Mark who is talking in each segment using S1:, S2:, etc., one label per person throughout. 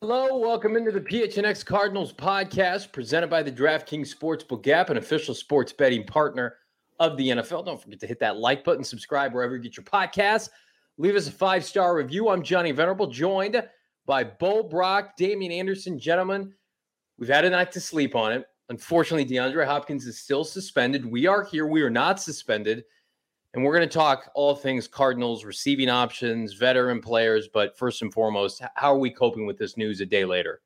S1: Hello, welcome into the PHNX Cardinals podcast presented by the DraftKings Sportsbook app, an official sports betting partner of the NFL. Don't forget to hit that like button, subscribe wherever you get your podcasts. Leave us a 5-star review. I'm Johnny Venerable, joined by Bo Brock, Damian Anderson. Gentlemen, we've had a night to sleep on it. Unfortunately, DeAndre Hopkins is still suspended. We are here. We are not suspended. And we're going to talk all things Cardinals, receiving options, veteran players. But first and foremost, how are we coping with this news a day later?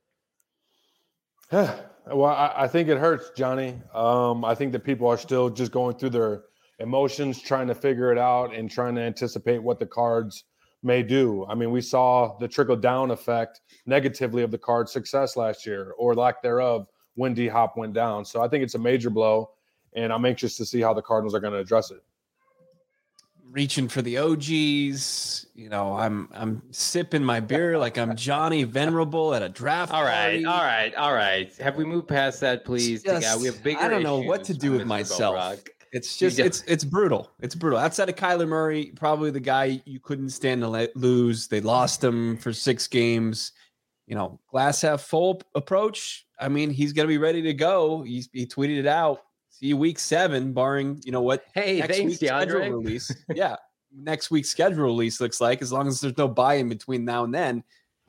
S2: Well, I think it hurts, Johnny. I think that people are still just going through their emotions, trying to figure it out and trying to anticipate what the Cards may do. I mean, we saw the trickle-down effect negatively of the Cards' success last year, or lack thereof, when D-Hop went down. So I think it's a major blow, and I'm anxious to see how the Cardinals are going to address it.
S3: Reaching for the OGs, I'm sipping my beer like I'm Johnny Venerable at a draft party.
S1: All right. Have we moved past that, please? We have bigger
S3: I don't know what to do with myself. It's just it's brutal. It's brutal. Outside of Kyler Murray, probably the guy you couldn't stand to lose. They lost him for 6 games. Glass half full approach. I mean, he's going to be ready to go. He tweeted it out. See you week 7, barring,
S1: Hey,
S3: next
S1: thanks,
S3: week's schedule release. Yeah. Next week's schedule release looks like, as long as there's no buy-in between now and then.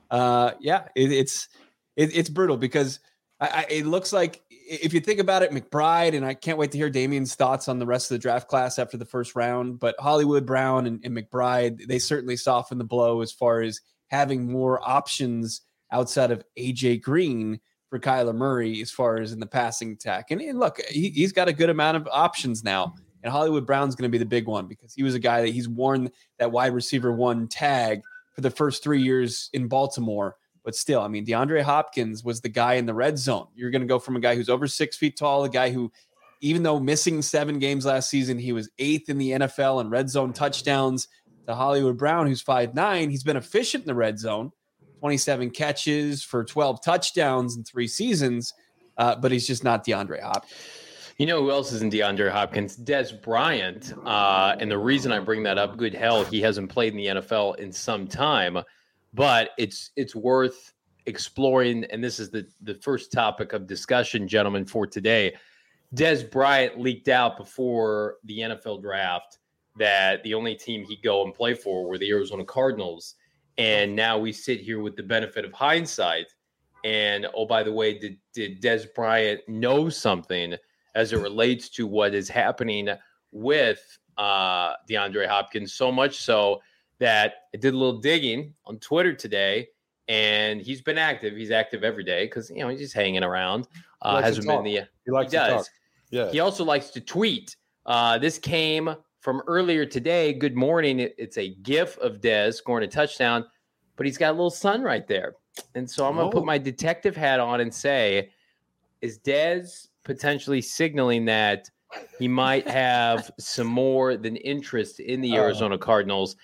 S3: It's brutal because it looks like, if you think about it, McBride, and I can't wait to hear Damian's thoughts on the rest of the draft class after the first round, but Hollywood Brown and McBride, they certainly soften the blow as far as having more options outside of AJ Green for Kyler Murray as far as in the passing attack. And look, he's got a good amount of options now. And Hollywood Brown's going to be the big one because he was a guy that he's worn that wide receiver 1 tag for the first 3 years in Baltimore. But still, I mean, DeAndre Hopkins was the guy in the red zone. You're going to go from a guy who's over 6 feet tall, a guy who, even though missing 7 games last season, he was 8th in the NFL in red zone touchdowns, to Hollywood Brown, who's 5'9". He's been efficient in the red zone. 27 catches for 12 touchdowns in 3 seasons, but he's just not DeAndre Hopkins.
S1: You know who else isn't DeAndre Hopkins? Dez Bryant. And the reason I bring that up, good hell, he hasn't played in the NFL in some time, but it's worth exploring. And this is the first topic of discussion, gentlemen, for today. Dez Bryant leaked out before the NFL draft that the only team he'd go and play for were the Arizona Cardinals. And now we sit here with the benefit of hindsight. And, oh, by the way, did Dez Bryant know something as it relates to what is happening with DeAndre Hopkins? So much so that I did a little digging on Twitter today, and he's been active. He's active every day because, he's just hanging around.
S2: He likes to talk. Yeah.
S1: He also likes to tweet. This came from earlier today. Good morning. It's a GIF of Dez scoring a touchdown, but he's got a little sun right there. And so I'm going to put my detective hat on and say, is Dez potentially signaling that he might have some more than interest in the Arizona Cardinals?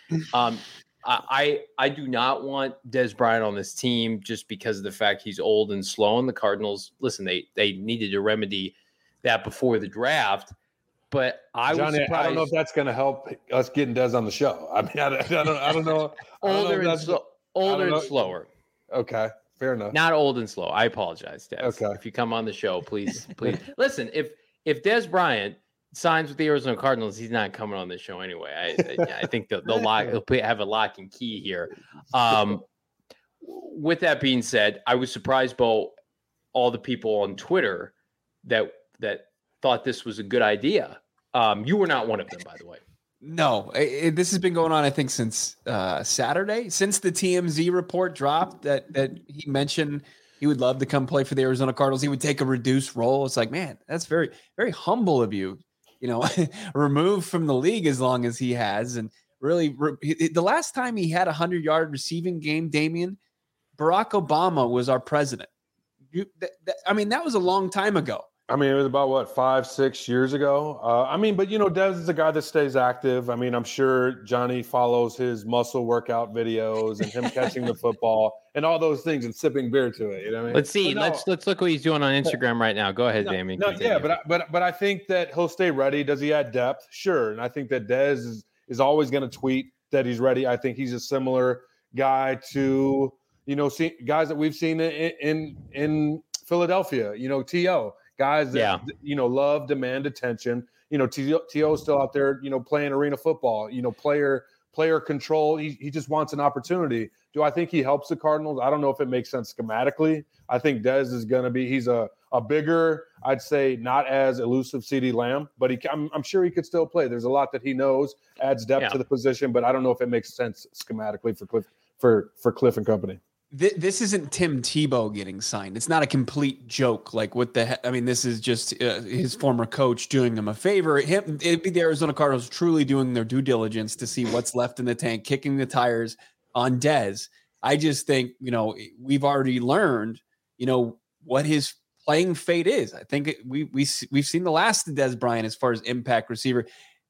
S1: I do not want Dez Bryant on this team just because of the fact he's old and slow. And the Cardinals, listen, they needed to remedy that before the draft. But
S2: Johnny, I don't know if that's going to help us getting Dez on the show. I mean, I don't know.
S1: Older and slower.
S2: Okay, fair enough.
S1: Not old and slow. I apologize, Dez.
S2: Okay.
S1: If you come on the show, please. Listen, if Dez Bryant signs with the Arizona Cardinals, he's not coming on this show anyway. I think he'll have a lock and key here. With that being said, I was surprised by all the people on Twitter that thought this was a good idea. You were not one of them, by the way.
S3: No, this has been going on, I think, since Saturday, since the TMZ report dropped that he mentioned he would love to come play for the Arizona Cardinals. He would take a reduced role. It's like, man, that's very, very humble of you, removed from the league as long as he has. And really, the last time he had a 100-yard receiving game, Damian, Barack Obama was our president. That was a long time ago.
S2: I mean, it was about, 5-6 years ago? But Dez is a guy that stays active. I mean, I'm sure Johnny follows his muscle workout videos and him catching the football and all those things and sipping beer to it. You know what I mean?
S1: Let's see. Let's look what he's doing on Instagram right now. Go ahead, Damien.
S2: But I think that he'll stay ready. Does he add depth? Sure. And I think that Dez is always going to tweet that he's ready. I think he's a similar guy to guys that we've seen in Philadelphia, T.O., guys that, love, demand attention. T.O. is still out there, playing arena football, player control. He just wants an opportunity. Do I think he helps the Cardinals? I don't know if it makes sense schematically. I think Dez is going to be – he's a bigger, I'd say not as elusive CeeDee Lamb, but I'm sure he could still play. There's a lot that he knows, adds depth to the position, but I don't know if it makes sense schematically for Cliff and company.
S3: This isn't Tim Tebow getting signed. It's not a complete joke. Like what the heck? I mean, this is just his former coach doing him a favor. It'd be the Arizona Cardinals truly doing their due diligence to see what's left in the tank, kicking the tires on Dez. I just think, we've already learned, what his playing fate is. I think we've seen the last of Dez Bryant as far as impact receiver.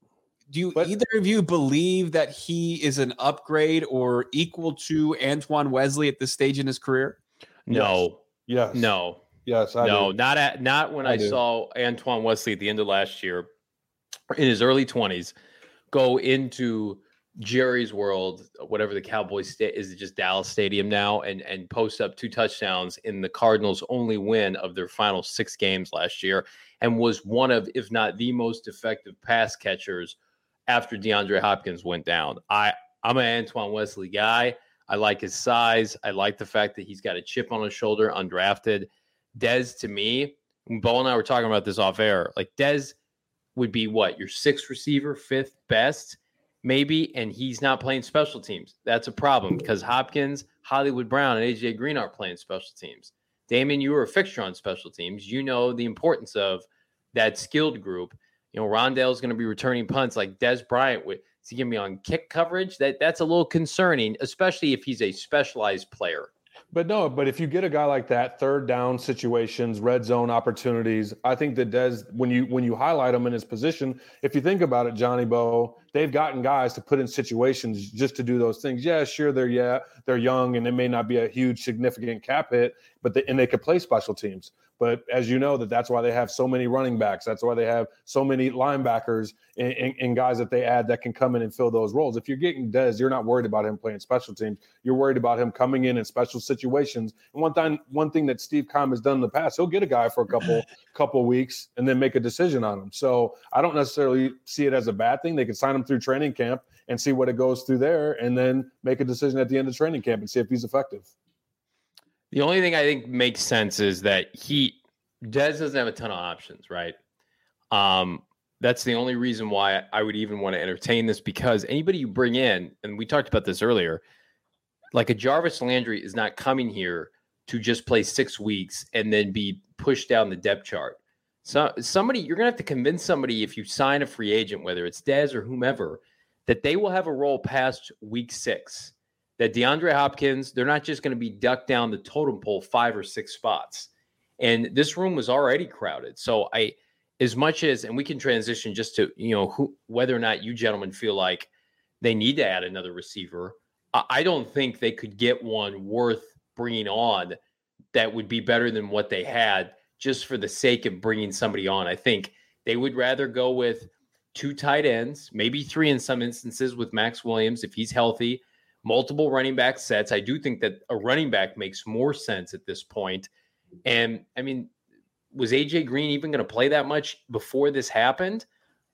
S3: Do either of you believe that he is an upgrade or equal to Antoine Wesley at this stage in his career?
S1: No.
S2: Yes.
S1: No.
S2: Yes.
S1: Not when I saw Antoine Wesley at the end of last year in his early 20s go into Jerry's World, whatever the Cowboys is, just Dallas Stadium now, and post up 2 touchdowns in the Cardinals' only win of their final 6 games last year, and was one of, if not the most effective pass catchers after DeAndre Hopkins went down. I'm an Antoine Wesley guy. I like his size. I like the fact that he's got a chip on his shoulder, undrafted. Dez, to me, Bo and I were talking about this off air, like Dez would be what, your 6th receiver, 5th best, maybe, and he's not playing special teams. That's a problem because Hopkins, Hollywood Brown, and A.J. Green aren't playing special teams. Damon, you were a fixture on special teams. You know the importance of that skilled group. Rondale's going to be returning punts like Dez Bryant. Is he going to be on kick coverage? That's a little concerning, especially if he's a specialized player.
S2: But if you get a guy like that, third down situations, red zone opportunities, I think that Dez, when you highlight him in his position, if you think about it, Johnny Bo, they've gotten guys to put in situations just to do those things. Yeah, sure, they're young and it may not be a huge significant cap hit, but they could play special teams. But as you know, that's why they have so many running backs. That's why they have so many linebackers and guys that they add that can come in and fill those roles. If you're getting Dez, you're not worried about him playing special teams. You're worried about him coming in special situations. And one thing that Steve Keim has done in the past, he'll get a guy for a couple weeks and then make a decision on him. So I don't necessarily see it as a bad thing. They can sign him through training camp and see what it goes through there and then make a decision at the end of training camp and see if he's effective.
S1: The only thing I think makes sense is that Dez doesn't have a ton of options, right? That's the only reason why I would even want to entertain this, because anybody you bring in, and we talked about this earlier, like a Jarvis Landry is not coming here to just play 6 weeks and then be pushed down the depth chart. So you're going to have to convince somebody, if you sign a free agent, whether it's Dez or whomever, that they will have a role past week 6. That DeAndre Hopkins, they're not just going to be ducked down the totem pole 5 or 6 spots. And this room was already crowded. So as much as, and we can transition just to, whether or not you gentlemen feel like they need to add another receiver. I don't think they could get one worth bringing on that would be better than what they had just for the sake of bringing somebody on. I think they would rather go with 2 tight ends, maybe 3 in some instances with Max Williams if he's healthy. Multiple running back sets. I do think that a running back makes more sense at this point. And I mean, was AJ Green even going to play that much before this happened?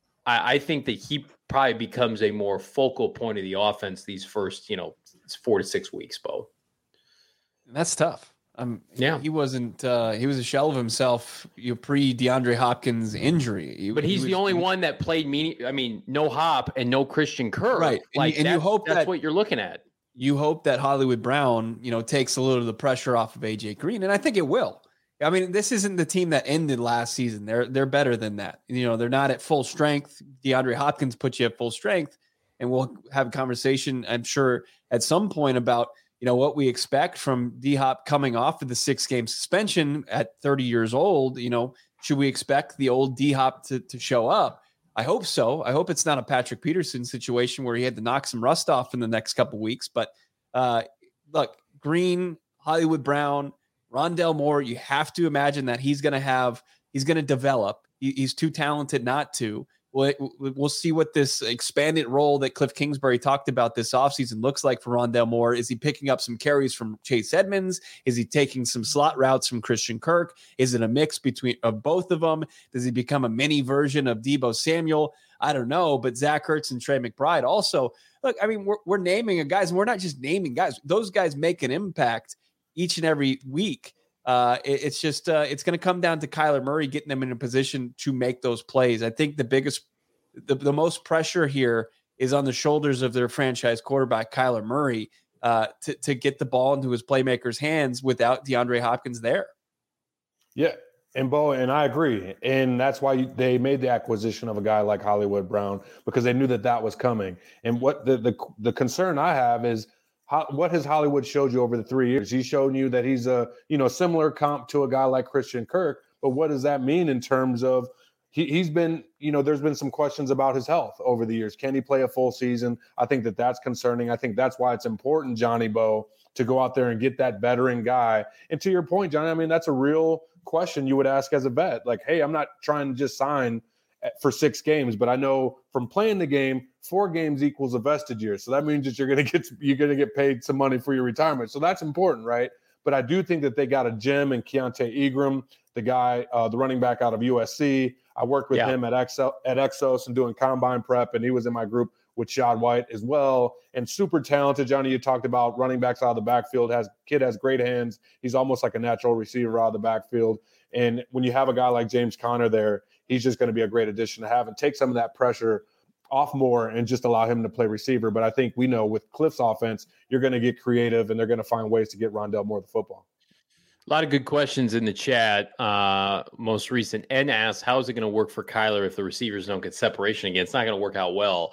S1: I think that he probably becomes a more focal point of the offense these first, 4 to 6 weeks, Bo.
S3: That's tough.
S1: Yeah,
S3: he wasn't. He was a shell of himself. Pre DeAndre Hopkins injury,
S1: he's the only one that played. No Hop and no Christian Kirk.
S3: Right, and you hope
S1: that's what you're looking at.
S3: You hope that Hollywood Brown, takes a little of the pressure off of AJ Green, and I think it will. I mean, this isn't the team that ended last season. They're better than that. They're not at full strength. DeAndre Hopkins puts you at full strength, and we'll have a conversation, I'm sure, at some point about what we expect from D-Hop coming off of the 6-game suspension at 30 years old. Should we expect the old D-Hop to show up? I hope so. I hope it's not a Patrick Peterson situation where he had to knock some rust off in the next couple weeks. But look, Green, Hollywood Brown, Rondale Moore, you have to imagine that he's going to develop. He's too talented not to. We'll see what this expanded role that Cliff Kingsbury talked about this offseason looks like for Rondale Moore. Is he picking up some carries from Chase Edmonds? Is he taking some slot routes from Christian Kirk? Is it a mix of both of them? Does he become a mini version of Deebo Samuel? I don't know, but Zach Ertz and Trey McBride also. Look, I mean, we're naming guys, and we're not just naming guys. Those guys make an impact each and every week. It's just it's going to come down to Kyler Murray getting them in a position to make those plays. I think the most pressure here is on the shoulders of their franchise quarterback, Kyler Murray, to get the ball into his playmakers' hands without DeAndre Hopkins there.
S2: Yeah, and Bo, and I agree. And that's why they made the acquisition of a guy like Hollywood Brown, because they knew that was coming. And what the concern I have is, what has Hollywood showed you over the 3 years? He's shown you that he's a similar comp to a guy like Christian Kirk. But what does that mean in terms of he's been, there's been some questions about his health over the years. Can he play a full season? I think that's concerning. I think that's why it's important, Johnny Bo, to go out there and get that veteran guy. And to your point, Johnny, I mean, that's a real question you would ask as a vet. Like, hey, I'm not trying to just sign for 6 games, but I know from playing the game, 4 games equals a vested year. So that means that you're going to get paid some money for your retirement. So that's important, right? But I do think that they got a gem in Keontae Ingram, the guy, the running back out of USC. I worked with him at Exos and doing combine prep, and he was in my group with Shad White as well. And super talented, Johnny. You talked about running backs out of the backfield. Kid has great hands. He's almost like a natural receiver out of the backfield. And when you have a guy like James Conner there, he's just going to be a great addition to have and take some of that pressure off more and just allow him to play receiver. But I think we know with Cliff's offense, you're going to get creative and they're going to find ways to get Rondale Moore the football.
S1: A lot of good questions in the chat. Most recent, N asks, how is it going to work for Kyler if the receivers don't get separation again? It's not going to work out well.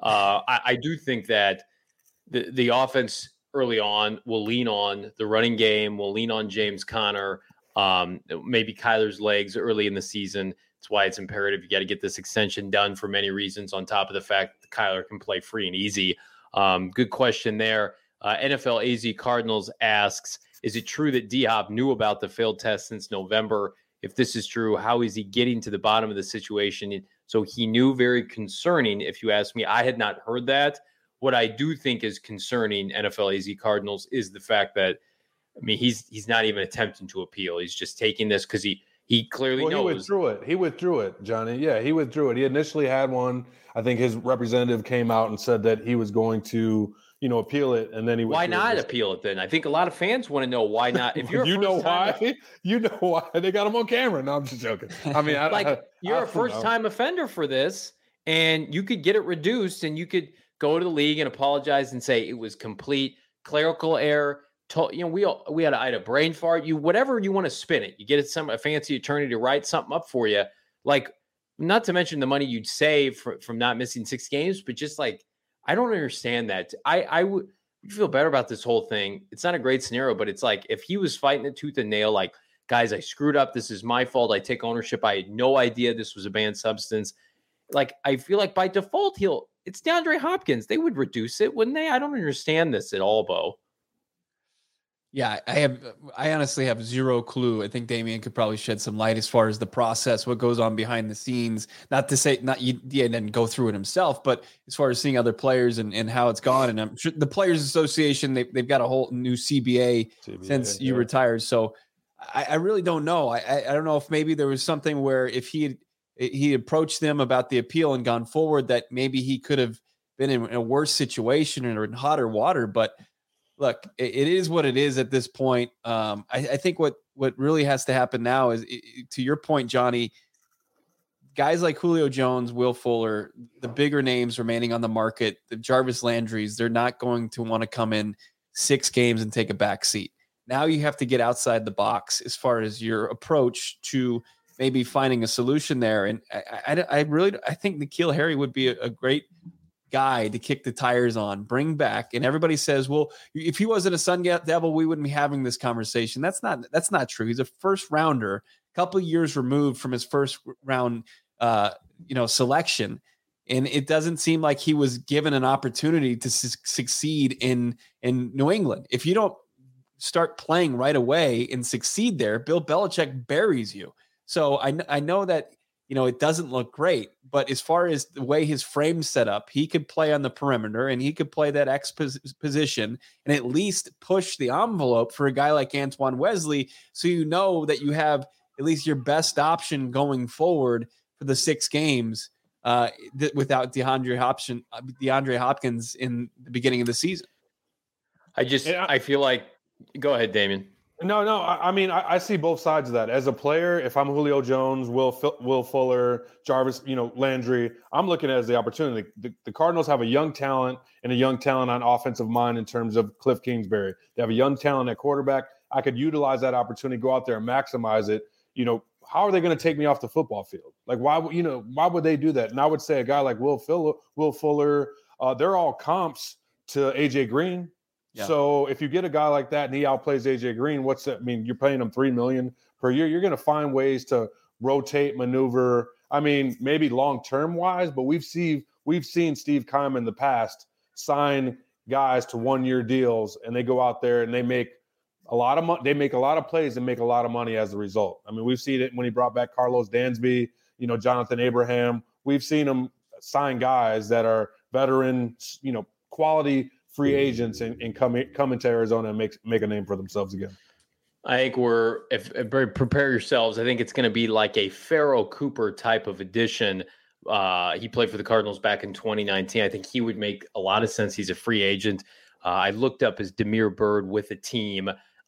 S1: I do think that the offense early on will lean on the running game, will lean on James Conner, maybe Kyler's legs early in the season. That's why it's imperative. You got to get this extension done for many reasons, on top of the fact that Kyler can play free and easy. Good question there. NFL AZ Cardinals asks, is it true that D-Hop knew about the failed test since November? If this is true, how is he getting to the bottom of the situation? So he knew, very concerning. If you ask me, I had not heard that. What I do think is concerning, NFL AZ Cardinals, is the fact that, I mean, he's not even attempting to appeal. He's just taking this because he clearly knows.
S2: He withdrew it, Johnny. Yeah, he withdrew it. He initially had one. I think his representative came out and said that he was going to, appeal it, and then he.
S1: Why not appeal it then? I think a lot of fans want to know why not. If you're,
S2: you know why they got him on camera. No, I'm just joking. I mean,
S1: you're a first-time offender for this, and you could get it reduced, and you could go to the league and apologize and say it was complete clerical error. We had a brain fart. Whatever you want to spin it, you get a fancy attorney to write something up for you. Like, not to mention the money you'd save from not missing 6 games, but just like, I don't understand that. I would feel better about this whole thing. It's not a great scenario, but it's like, if he was fighting it tooth and nail, like, guys, I screwed up. This is my fault. I take ownership. I had no idea this was a banned substance. Like, I feel like by default, it's DeAndre Hopkins. They would reduce it, wouldn't they? I don't understand this at all, Bo.
S3: Yeah, I honestly have zero clue. I think Damian could probably shed some light as far as the process, what goes on behind the scenes. Not to say he didn't go through it himself, but as far as seeing other players and how it's gone. And I'm sure the Players Association, they've got a whole new CBA since you retired. So I really don't know. I don't know if maybe there was something where if he approached them about the appeal and gone forward, that maybe he could have been in a worse situation or in hotter water. But look, it is what it is at this point. I think what really has to happen now is, to your point, Johnny, guys like Julio Jones, Will Fuller, the bigger names remaining on the market, the Jarvis Landrys, they're not going to want to come in 6 games and take a back seat. Now you have to get outside the box as far as your approach to maybe finding a solution there. And I think N'Keal Harry would be a great guy to kick the tires on, bring back. And everybody says, well, if he wasn't a Sun Devil, we wouldn't be having this conversation. That's not true. He's a first rounder, a couple of years removed from his first round, selection. And it doesn't seem like he was given an opportunity to succeed in New England. If you don't start playing right away and succeed there, Bill Belichick buries you. So I know that it doesn't look great. But as far as the way his frame's set up, he could play on the perimeter and he could play that X position and at least push the envelope for a guy like Antoine Wesley. So that you have at least your best option going forward for the 6 games without DeAndre Hopkins in the beginning of the season.
S1: I feel like, go ahead, Damien.
S2: No. I mean, I see both sides of that. As a player, if I'm Julio Jones, Will Fuller, Jarvis, Landry, I'm looking at it as the opportunity. The Cardinals have a young talent and a young talent on offensive line in terms of Cliff Kingsbury. They have a young talent at quarterback. I could utilize that opportunity, go out there and maximize it. How are they going to take me off the football field? Like, why would they do that? And I would say a guy like Will Fuller, they're all comps to AJ Green. Yeah. So if you get a guy like that and he outplays AJ Green, what's that? I mean, you're paying him $3 million per year. You're going to find ways to rotate, maneuver. I mean, maybe long-term wise, but we've seen Steve Keim in the past sign guys to 1-year deals, and they go out there and they make a lot of money. They make a lot of plays and make a lot of money as a result. I mean, we've seen it when he brought back Carlos Dansby, Jonathan Abraham. We've seen him sign guys that are veteran, quality free agents and come into Arizona and make a name for themselves again.
S1: I think prepare yourselves. I think it's going to be like a Pharoh Cooper type of addition. He played for the Cardinals back in 2019. I think he would make a lot of sense. He's a free agent. I looked up his Damiere Byrd with a team.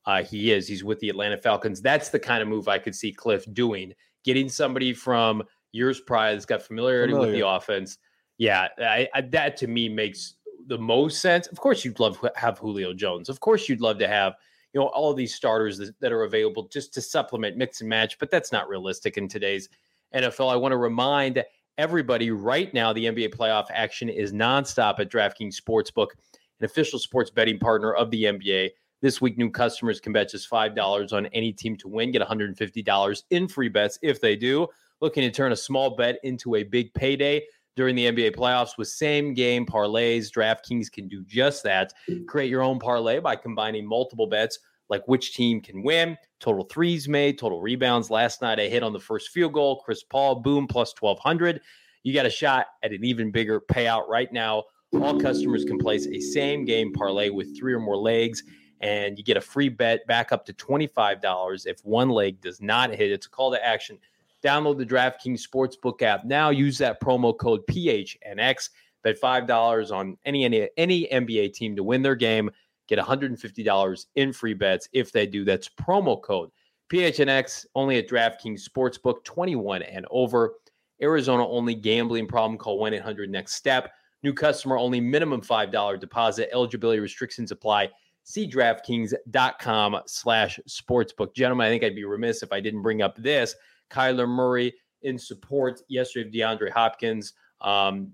S1: He's with the Atlanta Falcons. That's the kind of move I could see Cliff doing, getting somebody from years prior that's got familiarity with the offense. Yeah, that to me makes the most sense. Of course, you'd love to have Julio Jones. Of course, you'd love to have all of these starters that are available just to supplement, mix and match. But that's not realistic in today's NFL. I want to remind everybody right now the NBA playoff action is nonstop at DraftKings Sportsbook, an official sports betting partner of the NBA. This week, new customers can bet just $5 on any team to win, get $150 in free bets if they do. Looking to turn a small bet into a big payday during the NBA playoffs with same-game parlays. DraftKings can do just that. Create your own parlay by combining multiple bets, like which team can win, total threes made, total rebounds. Last night, I hit on the first field goal. Chris Paul, boom, plus 1,200. You got a shot at an even bigger payout right now. All customers can place a same-game parlay with 3 or more legs, and you get a free bet back up to $25 if one leg does not hit. It's a call to action. Download the DraftKings Sportsbook app now. Use that promo code PHNX. Bet $5 on any NBA team to win their game. Get $150 in free bets if they do. That's promo code PHNX, only at DraftKings Sportsbook, 21 and over. Arizona only. Gambling problem? Call 1-800-NEXT-STEP. New customer only. Minimum $5 deposit. Eligibility restrictions apply. See DraftKings.com/sportsbook. Gentlemen, I think I'd be remiss if I didn't bring up this. Kyler Murray in support yesterday of DeAndre Hopkins. That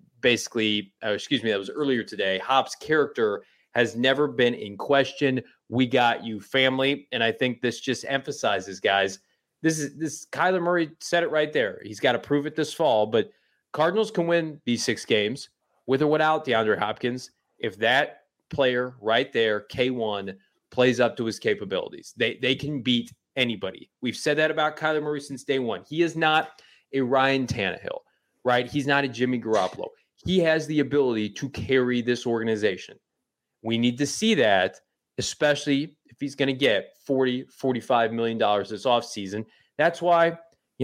S1: was earlier today. Hop's character has never been in question. We got you, family. And I think this just emphasizes, guys, this Kyler Murray said it right there. He's got to prove it this fall, but Cardinals can win these 6 games with or without DeAndre Hopkins if that player right there, K1, plays up to his capabilities. They can beat anybody. We've said that about Kyler Murray since day one. He is not a Ryan Tannehill, right? He's not a Jimmy Garoppolo. He has the ability to carry this organization. We need to see that, especially if he's going to get $40-45 million this offseason. That's why,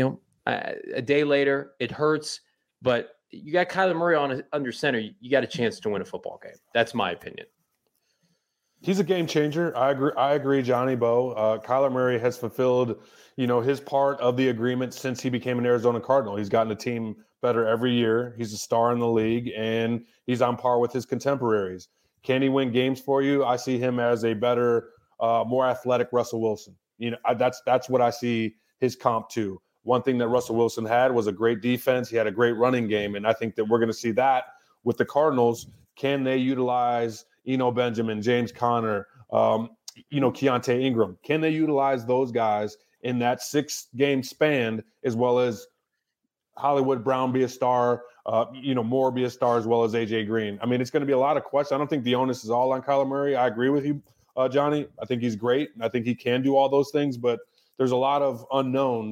S1: a day later, it hurts, but you got Kyler Murray under center. You got a chance to win a football game. That's my opinion.
S2: He's a game changer. I agree, Johnny Bo. Kyler Murray has fulfilled, his part of the agreement since he became an Arizona Cardinal. He's gotten the team better every year. He's a star in the league, and he's on par with his contemporaries. Can he win games for you? I see him as a better, more athletic Russell Wilson. That's what I see his comp to. One thing that Russell Wilson had was a great defense. He had a great running game, and I think that we're going to see that with the Cardinals. Can they utilize Eno Benjamin, James Conner, Keontae Ingram? Can they utilize those guys in that 6-game span, as well as Hollywood Brown be a star, Moore be a star, as well as AJ Green? I mean, it's going to be a lot of questions. I don't think the onus is all on Kyler Murray. I agree with you, Johnny. I think he's great. I think he can do all those things, but there's a lot of unknowns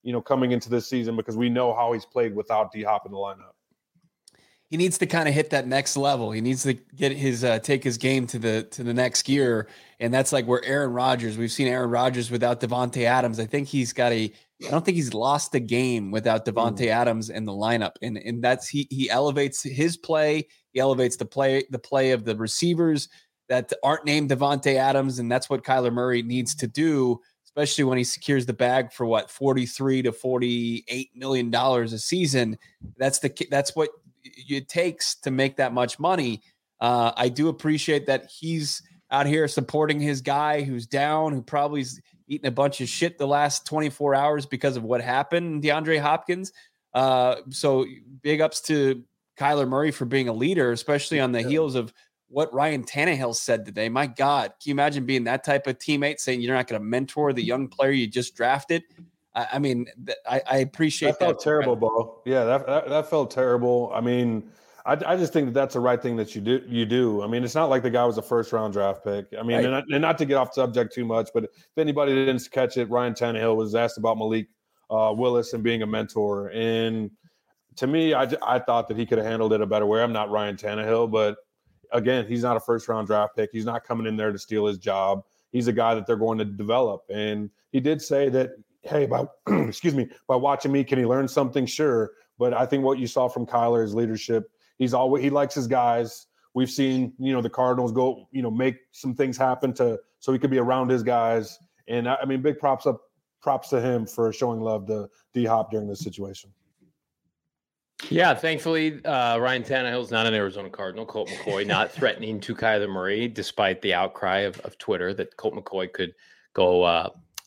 S2: coming into this season because we know how he's played without D-Hop in the lineup.
S3: He needs to kind of hit that next level. He needs to get his take his game to the next gear, and that's like where Aaron Rodgers. We've seen Aaron Rodgers without Devontae Adams. I think I don't think he's lost a game without Devontae Adams in the lineup, and that's he elevates his play. He elevates the play of the receivers that aren't named Devontae Adams, and that's what Kyler Murray needs to do, especially when he secures the bag for what $43 to $48 million a season. That's what it takes to make that much money. I do appreciate that he's out here supporting his guy who's down, who probably's eaten a bunch of shit the last 24 hours because of what happened, DeAndre Hopkins. So big ups to Kyler Murray for being a leader, especially on the heels of what Ryan Tannehill said today. My God, can you imagine being that type of teammate saying you're not going to mentor the young player you just drafted? I mean, I appreciate
S2: that. Felt terrible, Bo. Yeah, that felt terrible. I mean, I just think that's the right thing that you do. I mean, it's not like the guy was a first-round draft pick. I mean, right. and not to get off subject too much, but if anybody didn't catch it, Ryan Tannehill was asked about Malik Willis and being a mentor. And to me, I thought that he could have handled it a better way. I'm not Ryan Tannehill, but again, he's not a first-round draft pick. He's not coming in there to steal his job. He's a guy that they're going to develop. And he did say that, hey, by watching me, can he learn something? Sure. But I think what you saw from Kyler is leadership. He likes his guys. We've seen, the Cardinals go, make some things happen so he could be around his guys. And I mean, big props to him for showing love to D-Hop during this situation.
S1: Yeah, thankfully, Ryan Tannehill's not an Arizona Cardinal. Colt McCoy not threatening to Kyler Murray, despite the outcry of Twitter that Colt McCoy could go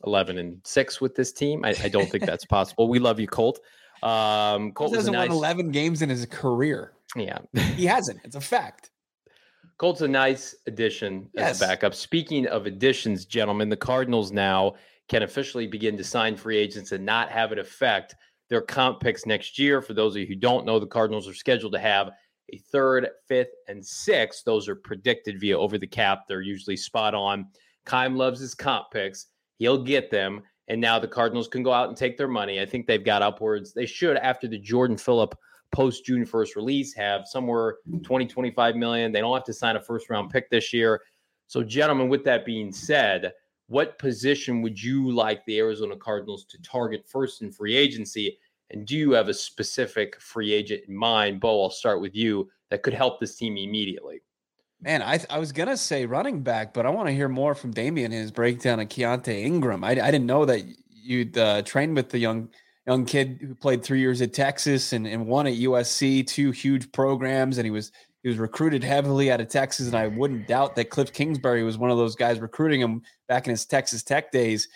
S1: 11-6 with this team. I don't think that's possible. We love you, Colt.
S3: Colt hasn't won 11 games in his career.
S1: Yeah,
S3: he hasn't. It's a fact.
S1: Colt's a nice addition as a backup. Speaking of additions, gentlemen, the Cardinals now can officially begin to sign free agents and not have it affect their comp picks next year. For those of you who don't know, the Cardinals are scheduled to have a 3rd, 5th, and 6th. Those are predicted via Over the Cap. They're usually spot on. Keim loves his comp picks. He'll get them. And now the Cardinals can go out and take their money. I think they've got upwards. They should, after the Jordan Phillip post-June 1st release, have somewhere 20-25 million. They don't have to sign a first-round pick this year. So, gentlemen, with that being said, what position would you like the Arizona Cardinals to target first in free agency? And do you have a specific free agent in mind? Bo, I'll start with you, that could help this team immediately.
S3: Man, I was going to say running back, but I want to hear more from Damian in his breakdown of Keontae Ingram. I didn't know that you'd trained with the young kid who played 3 years at Texas and won at USC, 2 huge programs, and he was recruited heavily out of Texas, and I wouldn't doubt that Cliff Kingsbury was one of those guys recruiting him back in his Texas Tech days.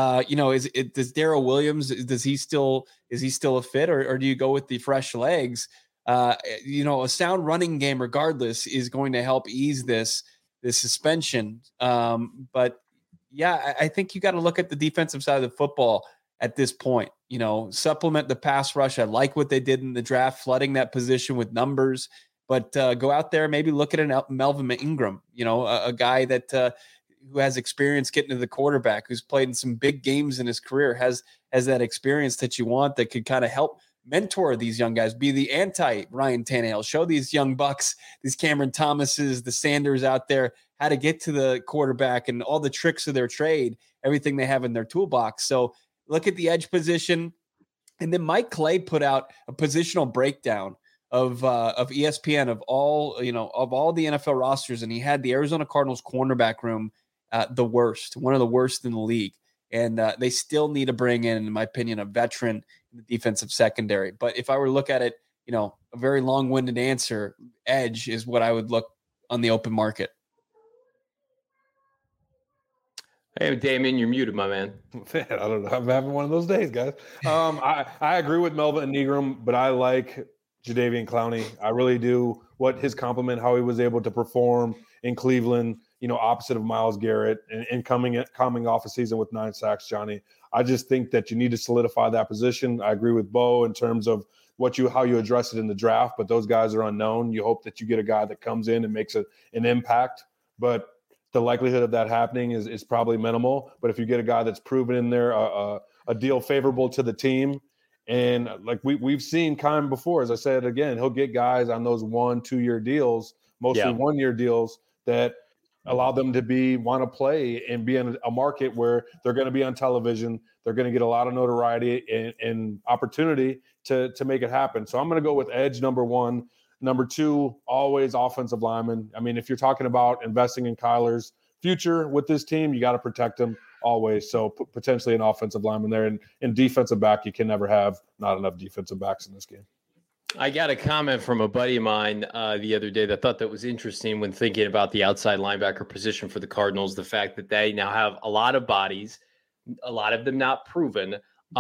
S3: Does Darrell Williams, is he still a fit, or do you go with the fresh legs? A sound running game regardless is going to help ease this suspension. But yeah, I think you got to look at the defensive side of the football at this point, supplement the pass rush. I like what they did in the draft, flooding that position with numbers, but go out there, maybe look at an Melvin Ingram, a guy that who has experience getting to the quarterback, who's played in some big games in his career, has that experience that you want, that could kind of help mentor these young guys, be the anti-Ryan Tannehill, show these young bucks, these Cameron Thomases, the Sanders out there, how to get to the quarterback and all the tricks of their trade, everything they have in their toolbox. So look at the edge position. And then Mike Clay put out a positional breakdown of ESPN of all the NFL rosters, and he had the Arizona Cardinals cornerback room one of the worst in the league. And they still need to bring in my opinion, a veteran in the defensive secondary. But if I were to look at it, a very long-winded answer, edge is what I would look on the open market.
S1: Hey, Damian, you're muted, my man.
S2: I don't know. I'm having one of those days, guys. I agree with Melvin Ingram, but I like Jadeveon Clowney. I really do. What his compliment, how he was able to perform in Cleveland, opposite of Myles Garrett and coming off a season with 9 sacks, Johnny. I just think that you need to solidify that position. I agree with Bo in terms of how you address it in the draft, but those guys are unknown. You hope that you get a guy that comes in and makes an impact, but the likelihood of that happening is probably minimal. But if you get a guy that's proven in there, a a deal favorable to the team. And like we've seen Keim before, as I said, again, he'll get guys on those 1-2 year deals, mostly 1 year deals that allow them to want to play and be in a market where they're going to be on television. They're going to get a lot of notoriety and opportunity to make it happen. So I'm going to go with edge number 1. Number 2, always offensive lineman. I mean, if you're talking about investing in Kyler's future with this team, you got to protect him always. So potentially an offensive lineman there. And in defensive back, you can never have not enough defensive backs in this game.
S1: I got a comment from a buddy of mine the other day that thought that was interesting when thinking about the outside linebacker position for the Cardinals, the fact that they now have a lot of bodies, a lot of them not proven.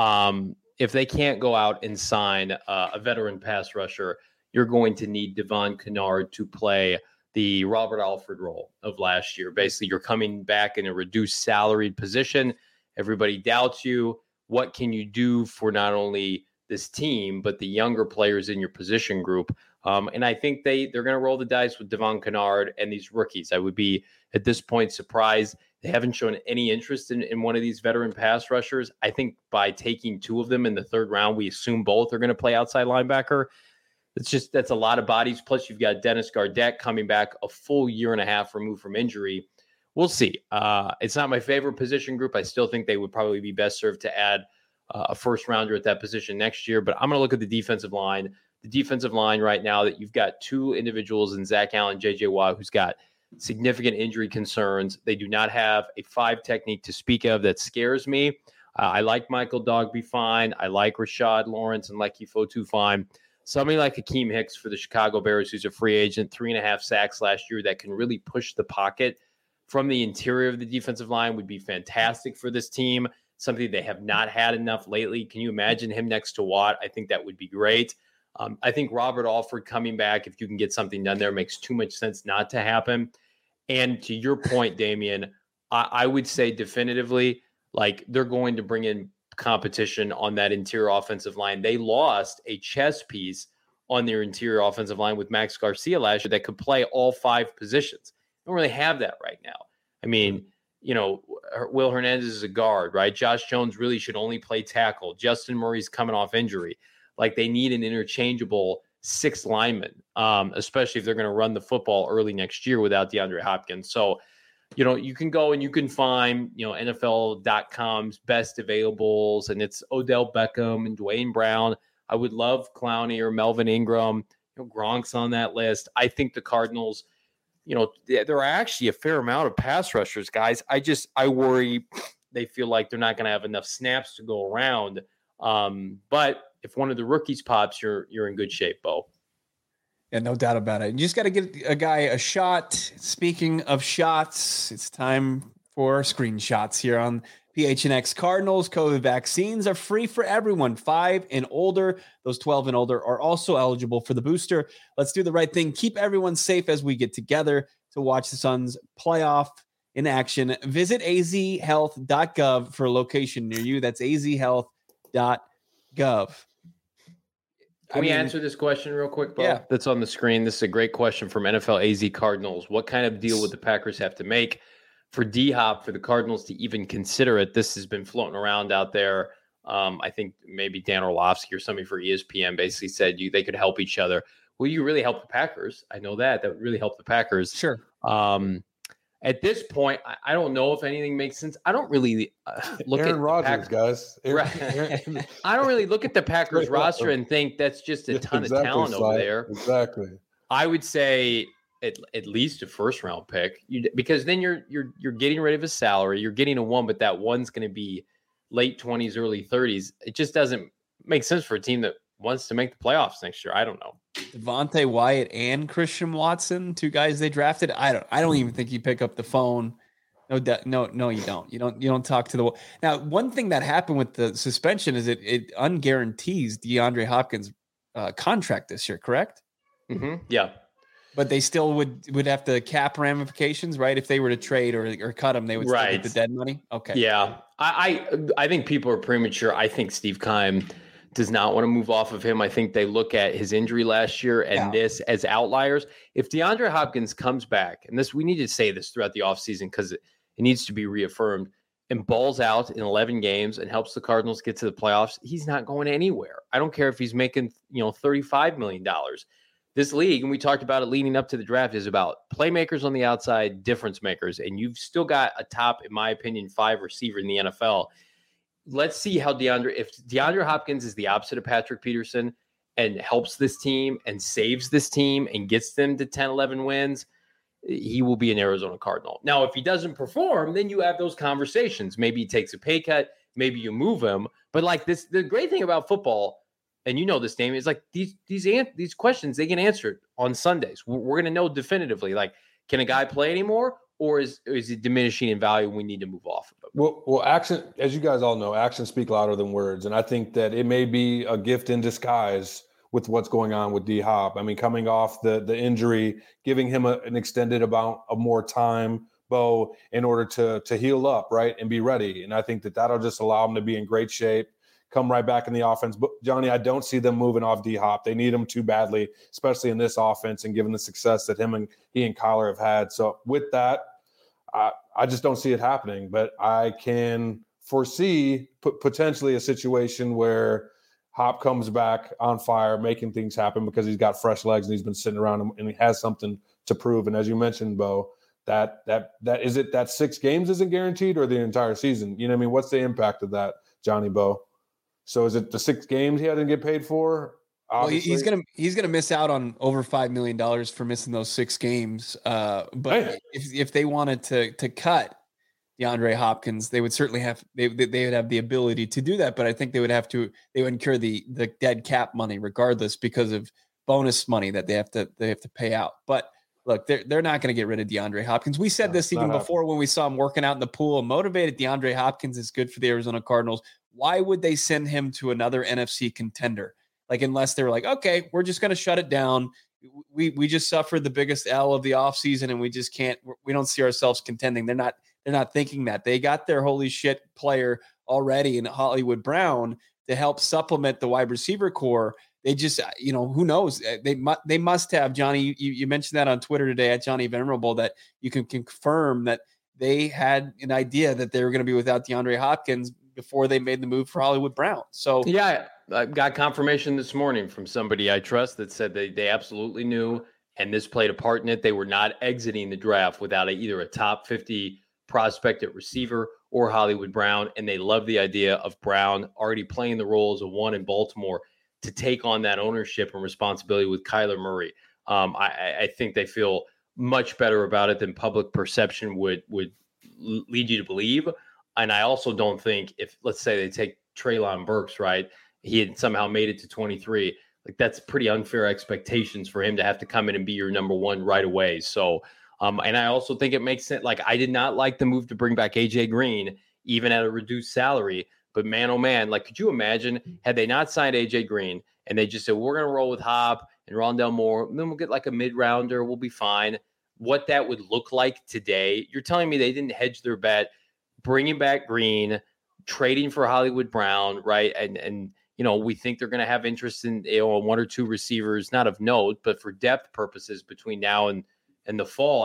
S1: If they can't go out and sign a veteran pass rusher, you're going to need Devon Kennard to play the Robert Alford role of last year. Basically, you're coming back in a reduced salaried position. Everybody doubts you. What can you do for not only this team, but the younger players in your position group? And I think they're going to roll the dice with Devon Kennard and these rookies. I would be, at this point, surprised they haven't shown any interest in one of these veteran pass rushers. I think by taking 2 of them in the 3rd round, we assume both are going to play outside linebacker. That's a lot of bodies. Plus, you've got Dennis Gardeck coming back a full year and a half removed from injury. We'll see. It's not my favorite position group. I still think they would probably be best served to add a first rounder at that position next year. But I'm going to look at the defensive line. The defensive line right now, that you've got 2 individuals in Zach Allen, J.J. Watt, who's got significant injury concerns. They do not have a 5 technique to speak of. That scares me. I like Michael Dogbe fine. I like Rashad Lawrence and Leki Fotu fine. Somebody like Hakeem Hicks for the Chicago Bears, who's a free agent, 3.5 sacks last year, that can really push the pocket from the interior of the defensive line would be fantastic for this team, something they have not had enough lately. Can you imagine him next to Watt? I think that would be great. I think Robert Alford coming back, if you can get something done there, makes too much sense not to happen. And to your point, Damian, I would say definitively, like, they're going to bring in competition on that interior offensive line. They lost a chess piece on their interior offensive line with Max Garcia last year that could play all 5 positions. They don't really have that right now. I mean, Will Hernandez is a guard, right? Josh Jones really should only play tackle. Justin Murray's coming off injury. Like, they need an interchangeable 6th lineman, especially if they're going to run the football early next year without DeAndre Hopkins. So, you can go and you can find, NFL.com's best availables, and it's Odell Beckham and Dwayne Brown. I would love Clowney or Melvin Ingram. Gronk's on that list. I think the Cardinals, there are actually a fair amount of pass rushers, guys. I worry they feel like they're not going to have enough snaps to go around. But if one of the rookies pops, you're in good shape, Bo.
S3: Yeah, no doubt about it. You just got to get a guy a shot. Speaking of shots, it's time for screenshots here on PHNX. Cardinals COVID vaccines are free for everyone 5 and older. Those 12 and older are also eligible for the booster. Let's do the right thing. Keep everyone safe as we get together to watch the Suns playoff in action. Visit azhealth.gov for a location near you. That's azhealth.gov.
S1: Can we answer this question real quick, Bo?
S3: Yeah.
S1: That's on the screen. This is a great question from NFL AZ Cardinals. What kind of deal would the Packers have to make for D-Hop for the Cardinals to even consider it? This has been floating around out there. I think maybe Dan Orlovsky or somebody for ESPN basically said they could help each other. Will you really help the Packers? I know that would really help the Packers.
S3: Sure.
S1: At this point, I don't know if anything makes sense. I don't really look
S2: Aaron
S1: at
S2: Rodgers, guys.
S1: I don't really look at the Packers roster and think that's just a ton of talent over there.
S2: Exactly.
S1: I would say at least a first round pick, because then you're getting rid of his salary. You're getting a 1, but that 1's going to be late 20s, early 30s. It just doesn't make sense for a team that wants to make the playoffs next year. I don't know.
S3: Devontae Wyatt and Christian Watson, 2 guys they drafted. I don't even think you pick up the phone. No, you don't. You don't talk to the. Now, one thing that happened with the suspension is it unguarantees DeAndre Hopkins' contract this year, correct?
S1: Mm-hmm. Yeah.
S3: But they still would have to cap ramifications, right? If they were to trade or cut him, they would still get the dead money. Okay.
S1: Yeah. I think people are premature. I think Steve Keim does not want to move off of him. I think they look at his injury last year and this as outliers. If DeAndre Hopkins comes back, and we need to say this throughout the offseason because it needs to be reaffirmed. and balls out in 11 games and helps the Cardinals get to the playoffs, he's not going anywhere. I don't care if he's making, $35 million. This league, and we talked about it leading up to the draft, is about playmakers on the outside, difference makers, and you've still got a top, in my opinion, 5 receiver in the NFL. Let's see how if DeAndre Hopkins is the opposite of Patrick Peterson and helps this team and saves this team and gets them to 10, 11 wins, he will be an Arizona Cardinal. Now, if he doesn't perform, then you have those conversations. Maybe he takes a pay cut. Maybe you move him. But like this, the great thing about football, and you know this, Damien, is like these questions, they get answered on Sundays. We're going to know definitively, like, can a guy play anymore, or is it diminishing in value? We need to move off of it.
S2: Well, action, as you guys all know, actions speak louder than words. And I think that it may be a gift in disguise with what's going on with D-Hop. I mean, coming off the injury, giving him an extended amount of more time, Bo, in order to heal up, right, and be ready. And I think that'll just allow him to be in great shape, come right back in the offense. But, Johnny, I don't see them moving off D-Hop. They need him too badly, especially in this offense and given the success that he and Kyler have had. So with that, I just don't see it happening. But I can foresee potentially a situation where Hop comes back on fire, making things happen because he's got fresh legs and he's been sitting around and he has something to prove. And as you mentioned, Bo, that is it that 6 games isn't guaranteed or the entire season? You know what I mean? What's the impact of that, Johnny Bo? So is it the 6 games he had to get paid for?
S3: Obviously? Well, he's gonna miss out on over $5 million for missing those 6 games. But if they wanted to cut DeAndre Hopkins, they would certainly have they would have the ability to do that, but I think they would incur the dead cap money regardless because of bonus money that they have to pay out. But look, they're not going to get rid of DeAndre Hopkins. We said this even before when we saw him working out in the pool. Motivated DeAndre Hopkins is good for the Arizona Cardinals. Why would they send him to another NFC contender? Like, unless they were like, okay, we're just going to shut it down. We just suffered the biggest L of the offseason and we don't see ourselves contending. They're not thinking that. They got their holy shit player already in Hollywood Brown to help supplement the wide receiver core. They just, who knows? They must have, Johnny, you mentioned that on Twitter today at Johnny Venerable, that you can confirm that they had an idea that they were going to be without DeAndre Hopkins before they made the move for Hollywood Brown. So
S1: yeah, I got confirmation this morning from somebody I trust that said they absolutely knew, and this played a part in it. They were not exiting the draft without either a top 50 prospect at receiver or Hollywood Brown, and they love the idea of Brown already playing the role as a one in Baltimore to take on that ownership and responsibility with Kyler Murray. I think they feel much better about it than public perception would lead you to believe. And I also don't think if, let's say, they take Treylon Burks, right, he had somehow made it to 23, like that's pretty unfair expectations for him to have to come in and be your number one right away. So and I also think it makes sense. Like, I did not like the move to bring back AJ Green, even at a reduced salary. But man, oh man, like, could you imagine had they not signed AJ Green and they just said, we're going to roll with Hop and Rondell Moore, and then we'll get like a mid-rounder, we'll be fine. What that would look like today, you're telling me they didn't hedge their bet, bringing back Green, trading for Hollywood Brown, right? And we think they're going to have interest in 1 or 2 receivers, not of note, but for depth purposes between now and the fall.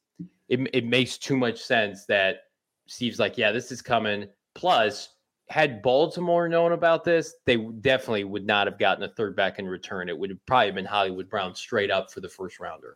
S1: It makes too much sense that Steve's like, yeah, this is coming. Plus, had Baltimore known about this, they definitely would not have gotten a third back in return. It would have probably been Hollywood Brown straight up for the first rounder.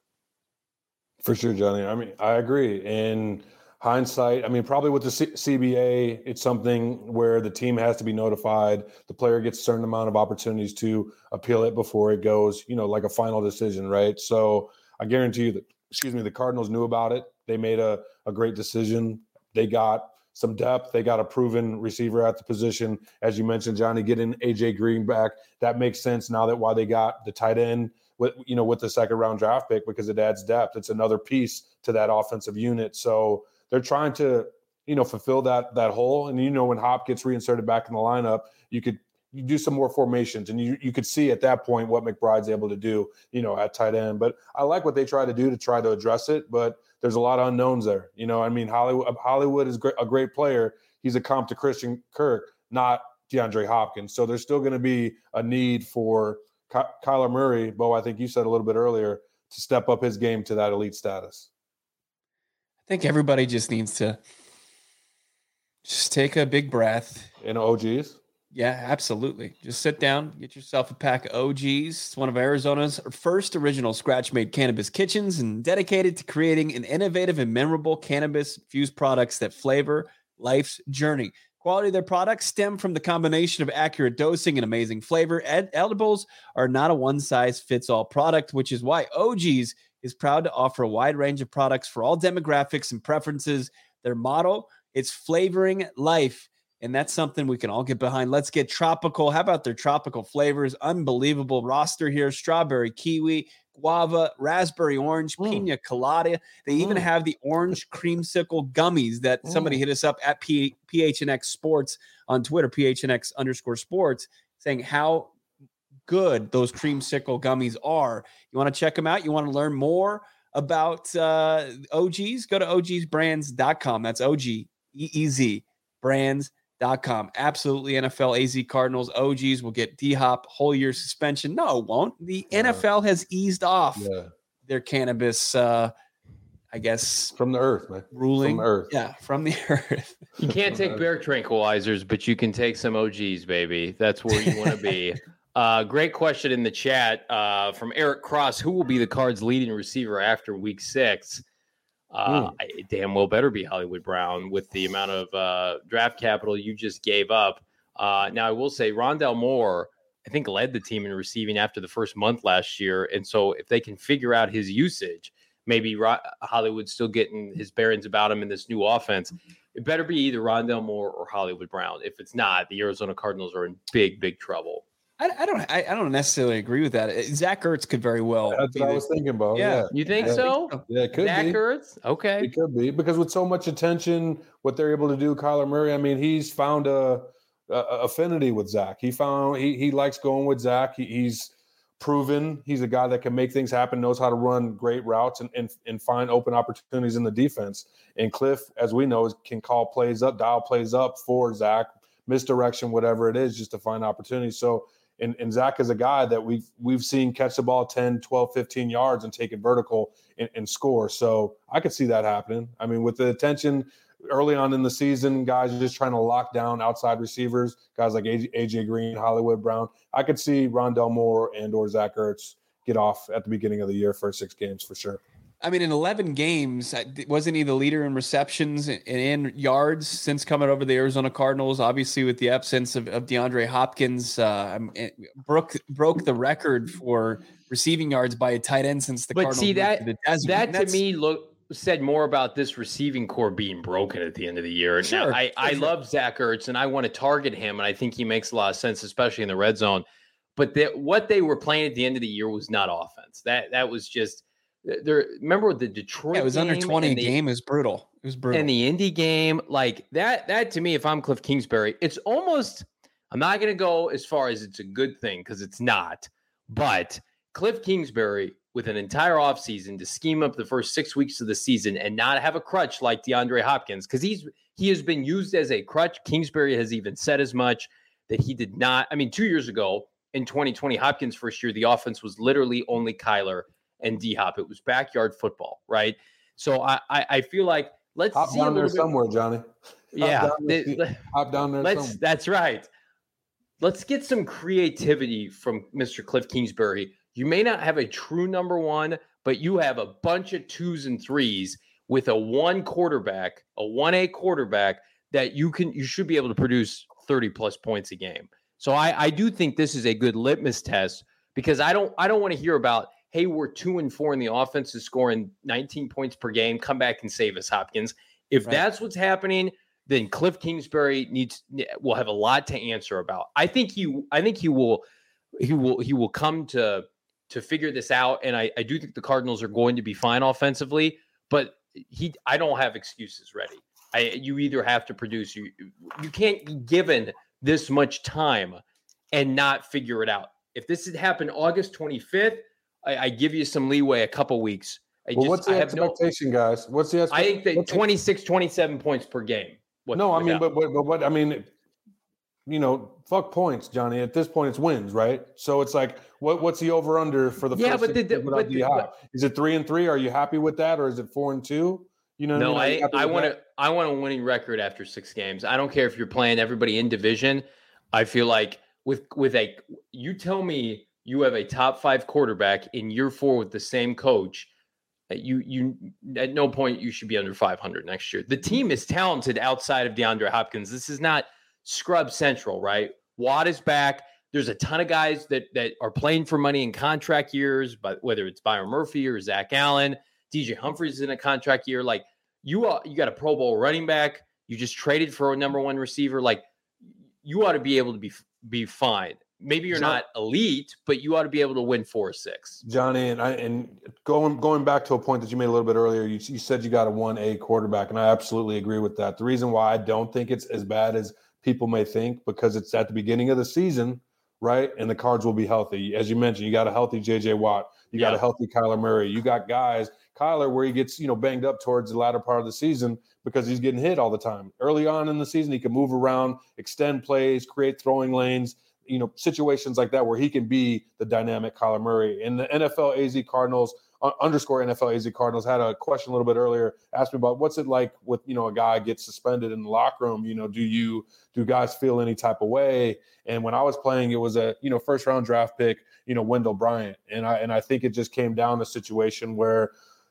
S2: For sure, Johnny. I mean, I agree. In hindsight, I mean, probably with the CBA, it's something where the team has to be notified. The player gets a certain amount of opportunities to appeal it before it goes, like a final decision, right? So I guarantee you that, the Cardinals knew about it. They made a great decision. They got some depth. They got a proven receiver at the position. As you mentioned, Johnny, getting AJ Green back, that makes sense now that why they got the tight end with the second round draft pick, because it adds depth. It's another piece to that offensive unit. So they're trying to, fulfill that hole. And, when Hop gets reinserted back in the lineup, you do some more formations, and you could see at that point what McBride's able to do, at tight end. But I like what they try to do to try to address it, but there's a lot of unknowns there. I mean, Hollywood is a great player. He's a comp to Christian Kirk, not DeAndre Hopkins. So there's still going to be a need for Kyler Murray, Bo, I think you said a little bit earlier, to step up his game to that elite status.
S3: I think everybody just needs to Just take a big breath.
S2: And OGs.
S3: Yeah, absolutely. Just sit down, get yourself a pack of OGs. It's one of Arizona's first original scratch-made cannabis kitchens and dedicated to creating an innovative and memorable cannabis-infused products that flavor life's journey. Quality of their products stem from the combination of accurate dosing and amazing flavor. Edibles are not a one-size-fits-all product, which is why OGs is proud to offer a wide range of products for all demographics and preferences. Their motto, it's flavoring life. And that's something we can all get behind. Let's get tropical. How about their tropical flavors? Unbelievable roster here. Strawberry, kiwi, guava, raspberry orange, pina colada. They even have the orange creamsicle gummies that somebody hit us up at PHNX Sports on Twitter, PHNX_sports, saying how good those creamsicle gummies are. You want to check them out? You want to learn more about OGs? Go to ogsbrands.com. That's OGEEZ brands.com. Absolutely. NFL AZ Cardinals OGs will get D-Hop whole year suspension. No, it won't. The NFL has eased off their cannabis, I guess.
S2: From the earth, man.
S3: Ruling.
S2: From the earth.
S3: Yeah, from the earth.
S1: You can't take bear tranquilizers, but you can take some OGs, baby. That's where you want to be. Great question in the chat from Eric Cross. Who will be the Cards' leading receiver after week 6? Damn well better be Hollywood Brown with the amount of draft capital you just gave up. Now, I will say Rondale Moore, I think, led the team in receiving after the first month last year. And so if they can figure out his usage, maybe Hollywood's still getting his bearings about him in this new offense. It better be either Rondale Moore or Hollywood Brown. If it's not, the Arizona Cardinals are in big, big trouble.
S3: I don't necessarily agree with that. Zach Ertz could very well.
S2: That's what I was thinking about. Yeah.
S1: You think so?
S2: Yeah, it could
S1: Zach
S2: be.
S1: Ertz? Okay.
S2: It could be because with so much attention, what they're able to do, Kyler Murray, I mean, he's found a affinity with Zach. He likes going with Zach. He's proven he's a guy that can make things happen, knows how to run great routes and find open opportunities in the defense. And Cliff, as we know, can call plays up, dial plays up for Zach, misdirection, whatever it is, just to find opportunities. So And Zach is a guy that we've seen catch the ball 10, 12, 15 yards and take it vertical and score. So I could see that happening. I mean, with the attention early on in the season, guys are just trying to lock down outside receivers, guys like AJ Green, Hollywood Brown. I could see Rondale Moore and or Zach Ertz get off at the beginning of the year for 6 games for sure.
S3: I mean, in 11 games, wasn't he the leader in receptions and in yards since coming over the Arizona Cardinals? Obviously, with the absence of DeAndre Hopkins, broke the record for receiving yards by a tight end since the Cardinals. But see,
S1: that to me said more about this receiving core being broken at the end of the year.
S3: Sure,
S1: now, I love Zach Ertz, and I want to target him, and I think he makes a lot of sense, especially in the red zone. But what they were playing at the end of the year was not offense. That was just – remember the Detroit?
S3: Yeah, it was under 20 a game. It was brutal. It was brutal.
S1: And the Indy game, like that to me, if I'm Cliff Kingsbury, it's almost. I'm not going to go as far as it's a good thing because it's not. But Cliff Kingsbury, with an entire offseason to scheme up the first 6 weeks of the season and not have a crutch like DeAndre Hopkins, because he has been used as a crutch. Kingsbury has even said as much that he did not. I mean, 2 years ago in 2020, Hopkins' first year, the offense was literally only Kyler and D-Hop. It was backyard football, right? So I feel like let's
S2: hop
S1: see
S2: down there somewhere, Johnny. Hop down there somewhere.
S1: That's right. Let's get some creativity from Mr. Cliff Kingsbury. You may not have a true number one, but you have a bunch of 2s and 3s with a 1A quarterback that you should be able to produce 30 plus points a game. So I do think this is a good litmus test because I don't want to hear about, hey, we're 2 and 4 and the offense is scoring 19 points per game. Come back and save us, Hopkins. If that's what's happening, then Cliff Kingsbury will have a lot to answer about. I think he will come to figure this out. And I do think the Cardinals are going to be fine offensively, but I don't have excuses ready. You either have to produce, you can't be given this much time and not figure it out. If this had happened August 25th, I give you some leeway, a couple weeks.
S2: What's the expectation, guys? What's the expectation?
S1: I think that 26, 27 points per game.
S2: But I mean, fuck points, Johnny. At this point, it's wins, right? So it's like, what's the over under for the first? Is it 3 and 3? Are you happy with that, or is it 4 and 2?
S1: I want to. I want a winning record after 6 games. I don't care if you're playing everybody in division. I feel like you tell me you have a top 5 quarterback in year 4 with the same coach. You at no point you should be under 500 next year. The team is talented outside of DeAndre Hopkins. This is not scrub central, right? Watt is back. There's a ton of guys that are playing for money in contract years, but whether it's Byron Murphy or Zach Allen, DJ Humphries is in a contract year. Like you got a Pro Bowl running back. You just traded for a number 1 receiver. Like you ought to be able to be fine. Maybe you're not elite, but you ought to be able to win 4 or 6.
S2: Johnny, and going back to a point that you made a little bit earlier, you said you got a 1A quarterback, and I absolutely agree with that. The reason why I don't think it's as bad as people may think, because it's at the beginning of the season, right? And the Cards will be healthy. As you mentioned, you got a healthy J.J. Watt. You got a healthy Kyler Murray. You got guys, Kyler, where he gets, banged up towards the latter part of the season because he's getting hit all the time. Early on in the season, he can move around, extend plays, create throwing lanes, situations like that where he can be the dynamic Kyler Murray. And the NFL AZ Cardinals, underscore NFL AZ Cardinals, had a question a little bit earlier, asked me about what's it like with, a guy gets suspended in the locker room. Do guys feel any type of way? And when I was playing, it was a, first round draft pick, Wendell Bryant. And I think it just came down to a situation where,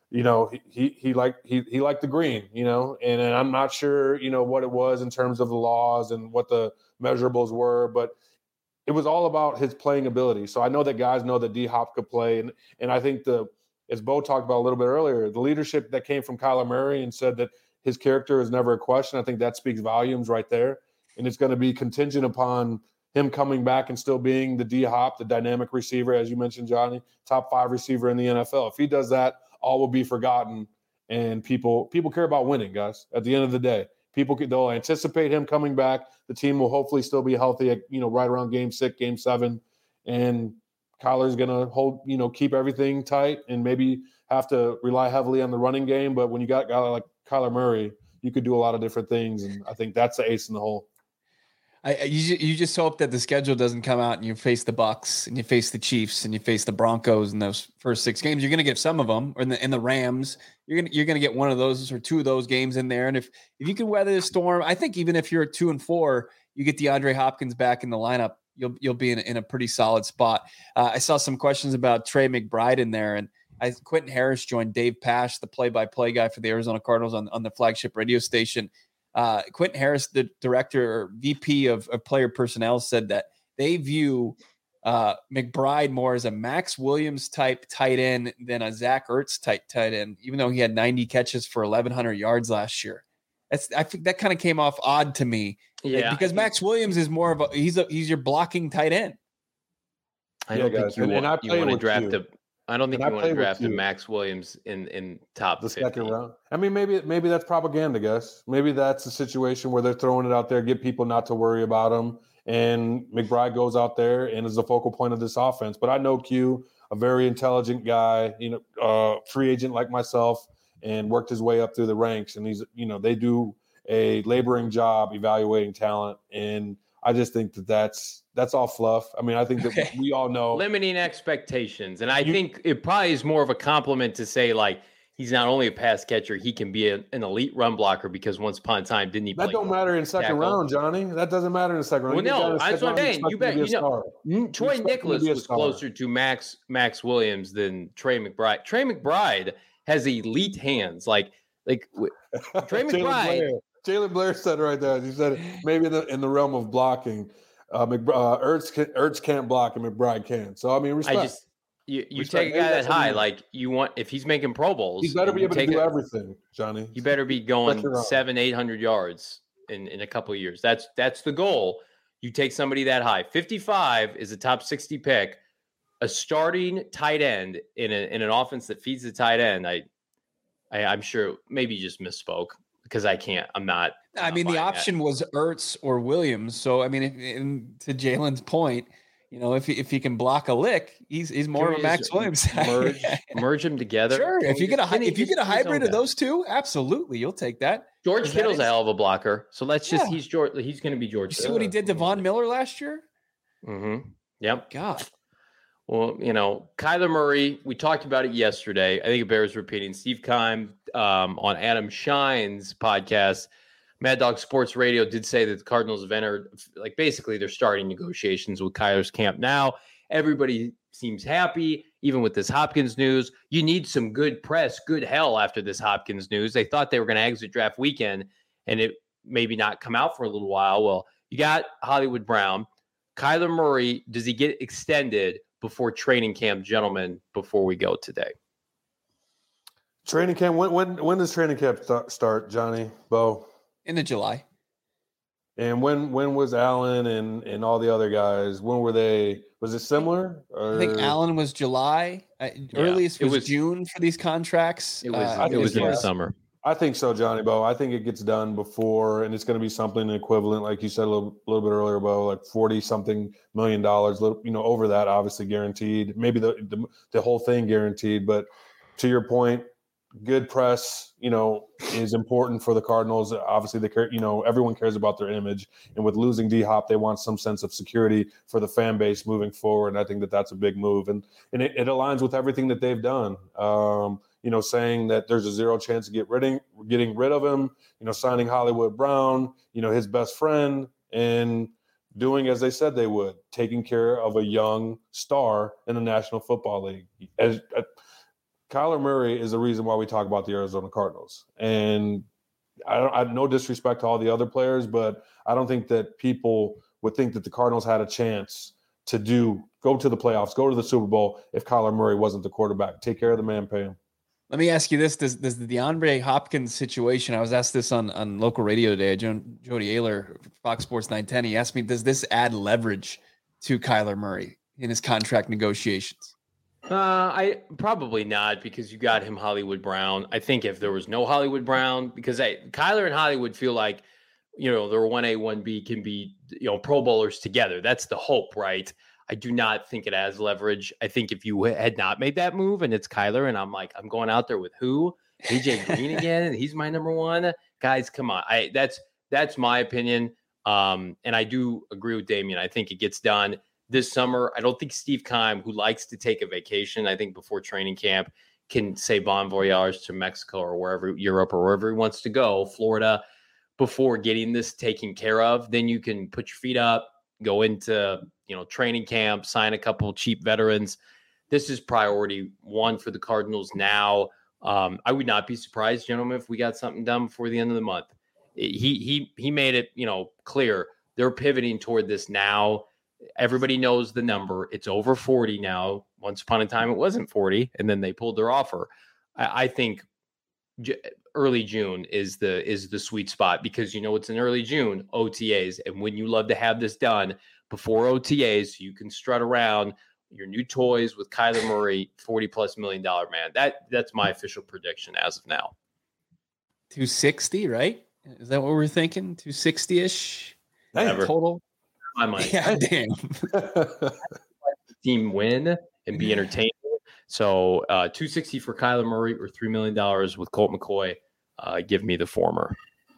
S2: he liked the green, and I'm not sure, what it was in terms of the laws and what the measurables were, but it was all about his playing ability. So I know that guys know that D-Hop could play. And I think as Bo talked about a little bit earlier, the leadership that came from Kyler Murray and said that his character is never a question, I think that speaks volumes right there. And it's going to be contingent upon him coming back and still being the D-Hop, the dynamic receiver, as you mentioned, Johnny, top 5 receiver in the NFL. If he does that, all will be forgotten. And people care about winning, guys, at the end of the day. They'll anticipate him coming back. The team will hopefully still be healthy at, right around game 6, game 7. And Kyler's going to hold, keep everything tight and maybe have to rely heavily on the running game. But when you got a guy like Kyler Murray, you could do a lot of different things. And I think that's the ace in the hole.
S3: You just hope that the schedule doesn't come out and you face the Bucs and you face the Chiefs and you face the Broncos in those first 6 games. You're going to get some of them, or in the Rams. You're going to get one of those or 2 of those games in there. And if you can weather the storm, I think even if you're at 2-4, you get DeAndre Hopkins back in the lineup, you'll be in a pretty solid spot. I saw some questions about Trey McBride in there, and Quentin Harris joined Dave Pasch, the play-by-play guy for the Arizona Cardinals on the flagship radio station. Quentin Harris, the director or VP of player personnel, said that they view McBride more as a Max Williams type tight end than a Zach Ertz type tight end, even though he had 90 catches for 1,100 yards last year. I think that kind of came off odd to me.
S1: Yeah,
S3: because Max Williams is more of he's your blocking tight end.
S1: I don't think you want to draft a. I don't think you want to draft a Max Williams in top
S2: the
S1: 50.
S2: Second round. I mean, maybe that's propaganda, guys. Maybe that's a situation where they're throwing it out there, get people not to worry about him, and McBride goes out there and is the focal point of this offense. But I know Q, a very intelligent guy, free agent like myself, and worked his way up through the ranks. And he's, they do a laboring job evaluating talent, and I just think that's all fluff. I mean, I think that we all know
S1: limiting expectations. And I think it probably is more of a compliment to say, like, he's not only a pass catcher, he can be an elite run blocker, because once upon a time, didn't he play?
S2: That don't matter in second round, Johnny. That doesn't matter in the second round.
S1: Well, no, that's what I'm saying. You bet. Troy Nicholas was closer to Max Williams than Trey McBride. Trey McBride has elite hands. Like Trey McBride.
S2: Jalen Blair said it right there. He said maybe in the realm of blocking, Ertz can't block and McBride can. So I mean, respect.
S1: You take a guy that high, like you want. If he's making Pro Bowls,
S2: he's better be able to do everything, Johnny.
S1: You better be going 700-800 yards in a couple of years. That's the goal. You take somebody that high. 55 is a top 60 pick, a starting tight end in an offense that feeds the tight end. I'm sure maybe you just misspoke. Because I'm not.
S3: I mean, the option was Ertz or Williams. So, I mean, to Jalen's point, if he can block a lick, he's more of a Max Williams.
S1: merge them together.
S3: Sure. If you get a hybrid of those two, absolutely, you'll take that.
S1: George Kittle's a hell of a blocker. So let's just he's going to be George.
S3: You see what he did to Von Miller last year?
S1: Mm-hmm. Yep.
S3: God.
S1: Well, Kyler Murray, we talked about it yesterday. I think it bears repeating. Steve Keim on Adam Shine's podcast, Mad Dog Sports Radio, did say that the Cardinals have entered, basically they're starting negotiations with Kyler's camp now. Everybody seems happy, even with this Hopkins news. You need some good press, good hell after this Hopkins news. They thought they were going to exit draft weekend and it maybe not come out for a little while. Well, you got Hollywood Brown. Kyler Murray, does he get extended before training camp, gentlemen, before we go today?
S2: Training camp, when does training camp start, Johnny, Bo?
S3: In July.
S2: And when was Allen and all the other guys? When were they? Was it similar?
S3: I think Allen was July. Earliest was June for these contracts.
S1: It was in the summer.
S2: I think so, Johnny Bo. I think it gets done before, and it's going to be something equivalent, like you said a little bit earlier, Bo, like $40-something million, over that, obviously guaranteed. Maybe the whole thing guaranteed. But to your point, good press, is important for the Cardinals. Obviously, they care. Everyone cares about their image, and with losing D-Hop, they want some sense of security for the fan base moving forward. And I think that's a big move, and it aligns with everything that they've done. Saying that there's a zero chance of getting rid of him, signing Hollywood Brown, his best friend, and doing as they said they would, taking care of a young star in the National Football League. Kyler Murray is the reason why we talk about the Arizona Cardinals. And I have no disrespect to all the other players, but I don't think that people would think that the Cardinals had a chance to go to the playoffs, go to the Super Bowl if Kyler Murray wasn't the quarterback. Take care of the man, pay him.
S3: Let me ask you this. Does the DeAndre Hopkins situation, I was asked this on local radio today, Jody Ayler, Fox Sports 910, he asked me, does this add leverage to Kyler Murray in his contract negotiations?
S1: I probably not, because you got him Hollywood Brown. I think if there was no Hollywood Brown, because Kyler and Hollywood feel like, they're 1A, 1B can be, Pro Bowlers together. That's the hope, right? I do not think it has leverage. I think if you had not made that move and it's Kyler and I'm going out there with who? AJ Green again, and he's my number one. Guys, come on. That's my opinion. And I do agree with Damien. I think it gets done this summer. I don't think Steve Keim, who likes to take a vacation, I think before training camp, can say bon voyage to Mexico or wherever, Europe or wherever he wants to go, Florida, before getting this taken care of. Then you can put your feet up, go into training camp, sign a couple of cheap veterans. This is priority one for the Cardinals now. I would not be surprised, gentlemen, if we got something done before the end of the month. He made it, clear they're pivoting toward this now. Everybody knows the number. It's over 40 now. Once upon a time, it wasn't 40, and then they pulled their offer. I think early June is the sweet spot, because it's in early June, OTAs, and when you love to have this done before OTAs, so you can strut around your new toys with Kyler Murray, $40+ million man. That's my official prediction as of now.
S3: 260, right? Is that what we're thinking? 260-ish total.
S1: My mind.
S3: Yeah, damn.
S1: Team win and be entertaining. So 260 for Kyler Murray or $3 million with Colt McCoy. Give me the former.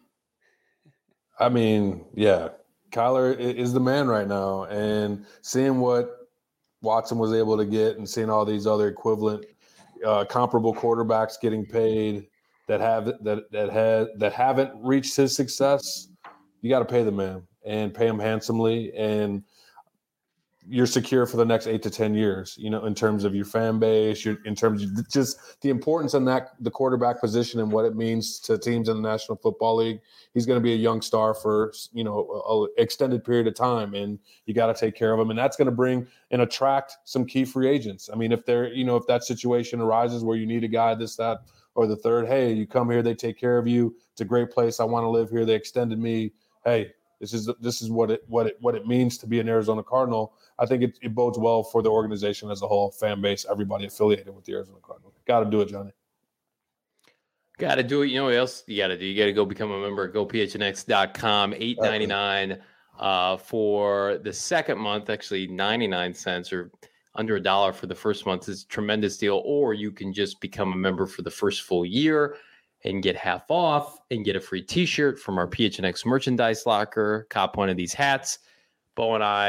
S2: I mean, yeah, Kyler is the man right now, and seeing what Watson was able to get and seeing all these other equivalent comparable quarterbacks getting paid that haven't reached his success, you got to pay the man and pay him handsomely, and you're secure for the next 8 to 10 years, in terms of your fan base, in terms of just the importance in the quarterback position and what it means to teams in the National Football League. He's going to be a young star for, an extended period of time, and you got to take care of him. And that's going to bring and attract some key free agents. I mean, if if that situation arises where you need a guy, this, that, or the third, hey, you come here, they take care of you. It's a great place. I want to live here. They extended me. Hey, this is what it means to be an Arizona Cardinal. I think it bodes well for the organization as a whole, fan base, everybody affiliated with the Arizona Cardinals. Got to do it, Johnny.
S1: Got to do it. You know what else you got to do? You got to go become a member at gophnx.com. $8.99 for the second month. Actually, 99 cents or under $1 for the first month is a tremendous deal. Or you can just become a member for the first full year and get half off and get a free T-shirt from our PHNX merchandise locker. Cop one of these hats. Bo and I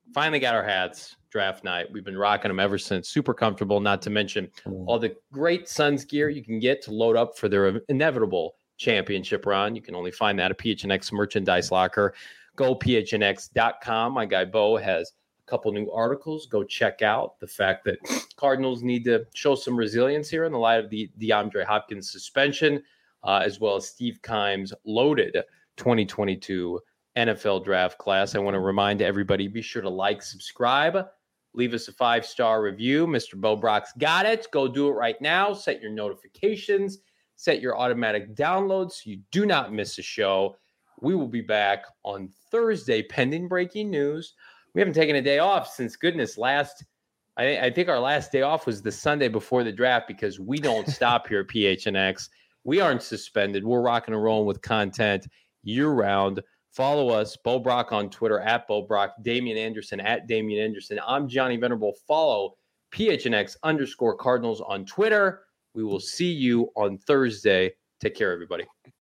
S1: finally got our hats draft night. We've been rocking them ever since. Super comfortable, not to mention all the great Suns gear you can get to load up for their inevitable championship run. You can only find that at PHNX merchandise locker. Go phnx.com. My guy Bo has a couple new articles. Go check out the fact that Cardinals need to show some resilience here in the light of the DeAndre Hopkins suspension, as well as Steve Keim's loaded 2022 NFL draft class. I want to remind everybody, be sure to like, subscribe, leave us a 5-star review. Mr. Bo Brock's got it. Go do it right now. Set your notifications, set your automatic downloads so you do not miss a show. We will be back on Thursday, pending breaking news. We haven't taken a day off since goodness I think our last day off was the Sunday before the draft because we don't stop here at PHNX. We aren't suspended. We're rocking and rolling with content year-round. Follow us, Bo Brock on Twitter, at Bo Brock, Damian Anderson, at Damian Anderson. I'm Johnny Venerable. Follow PHNX_Cardinals on Twitter. We will see you on Thursday. Take care, everybody.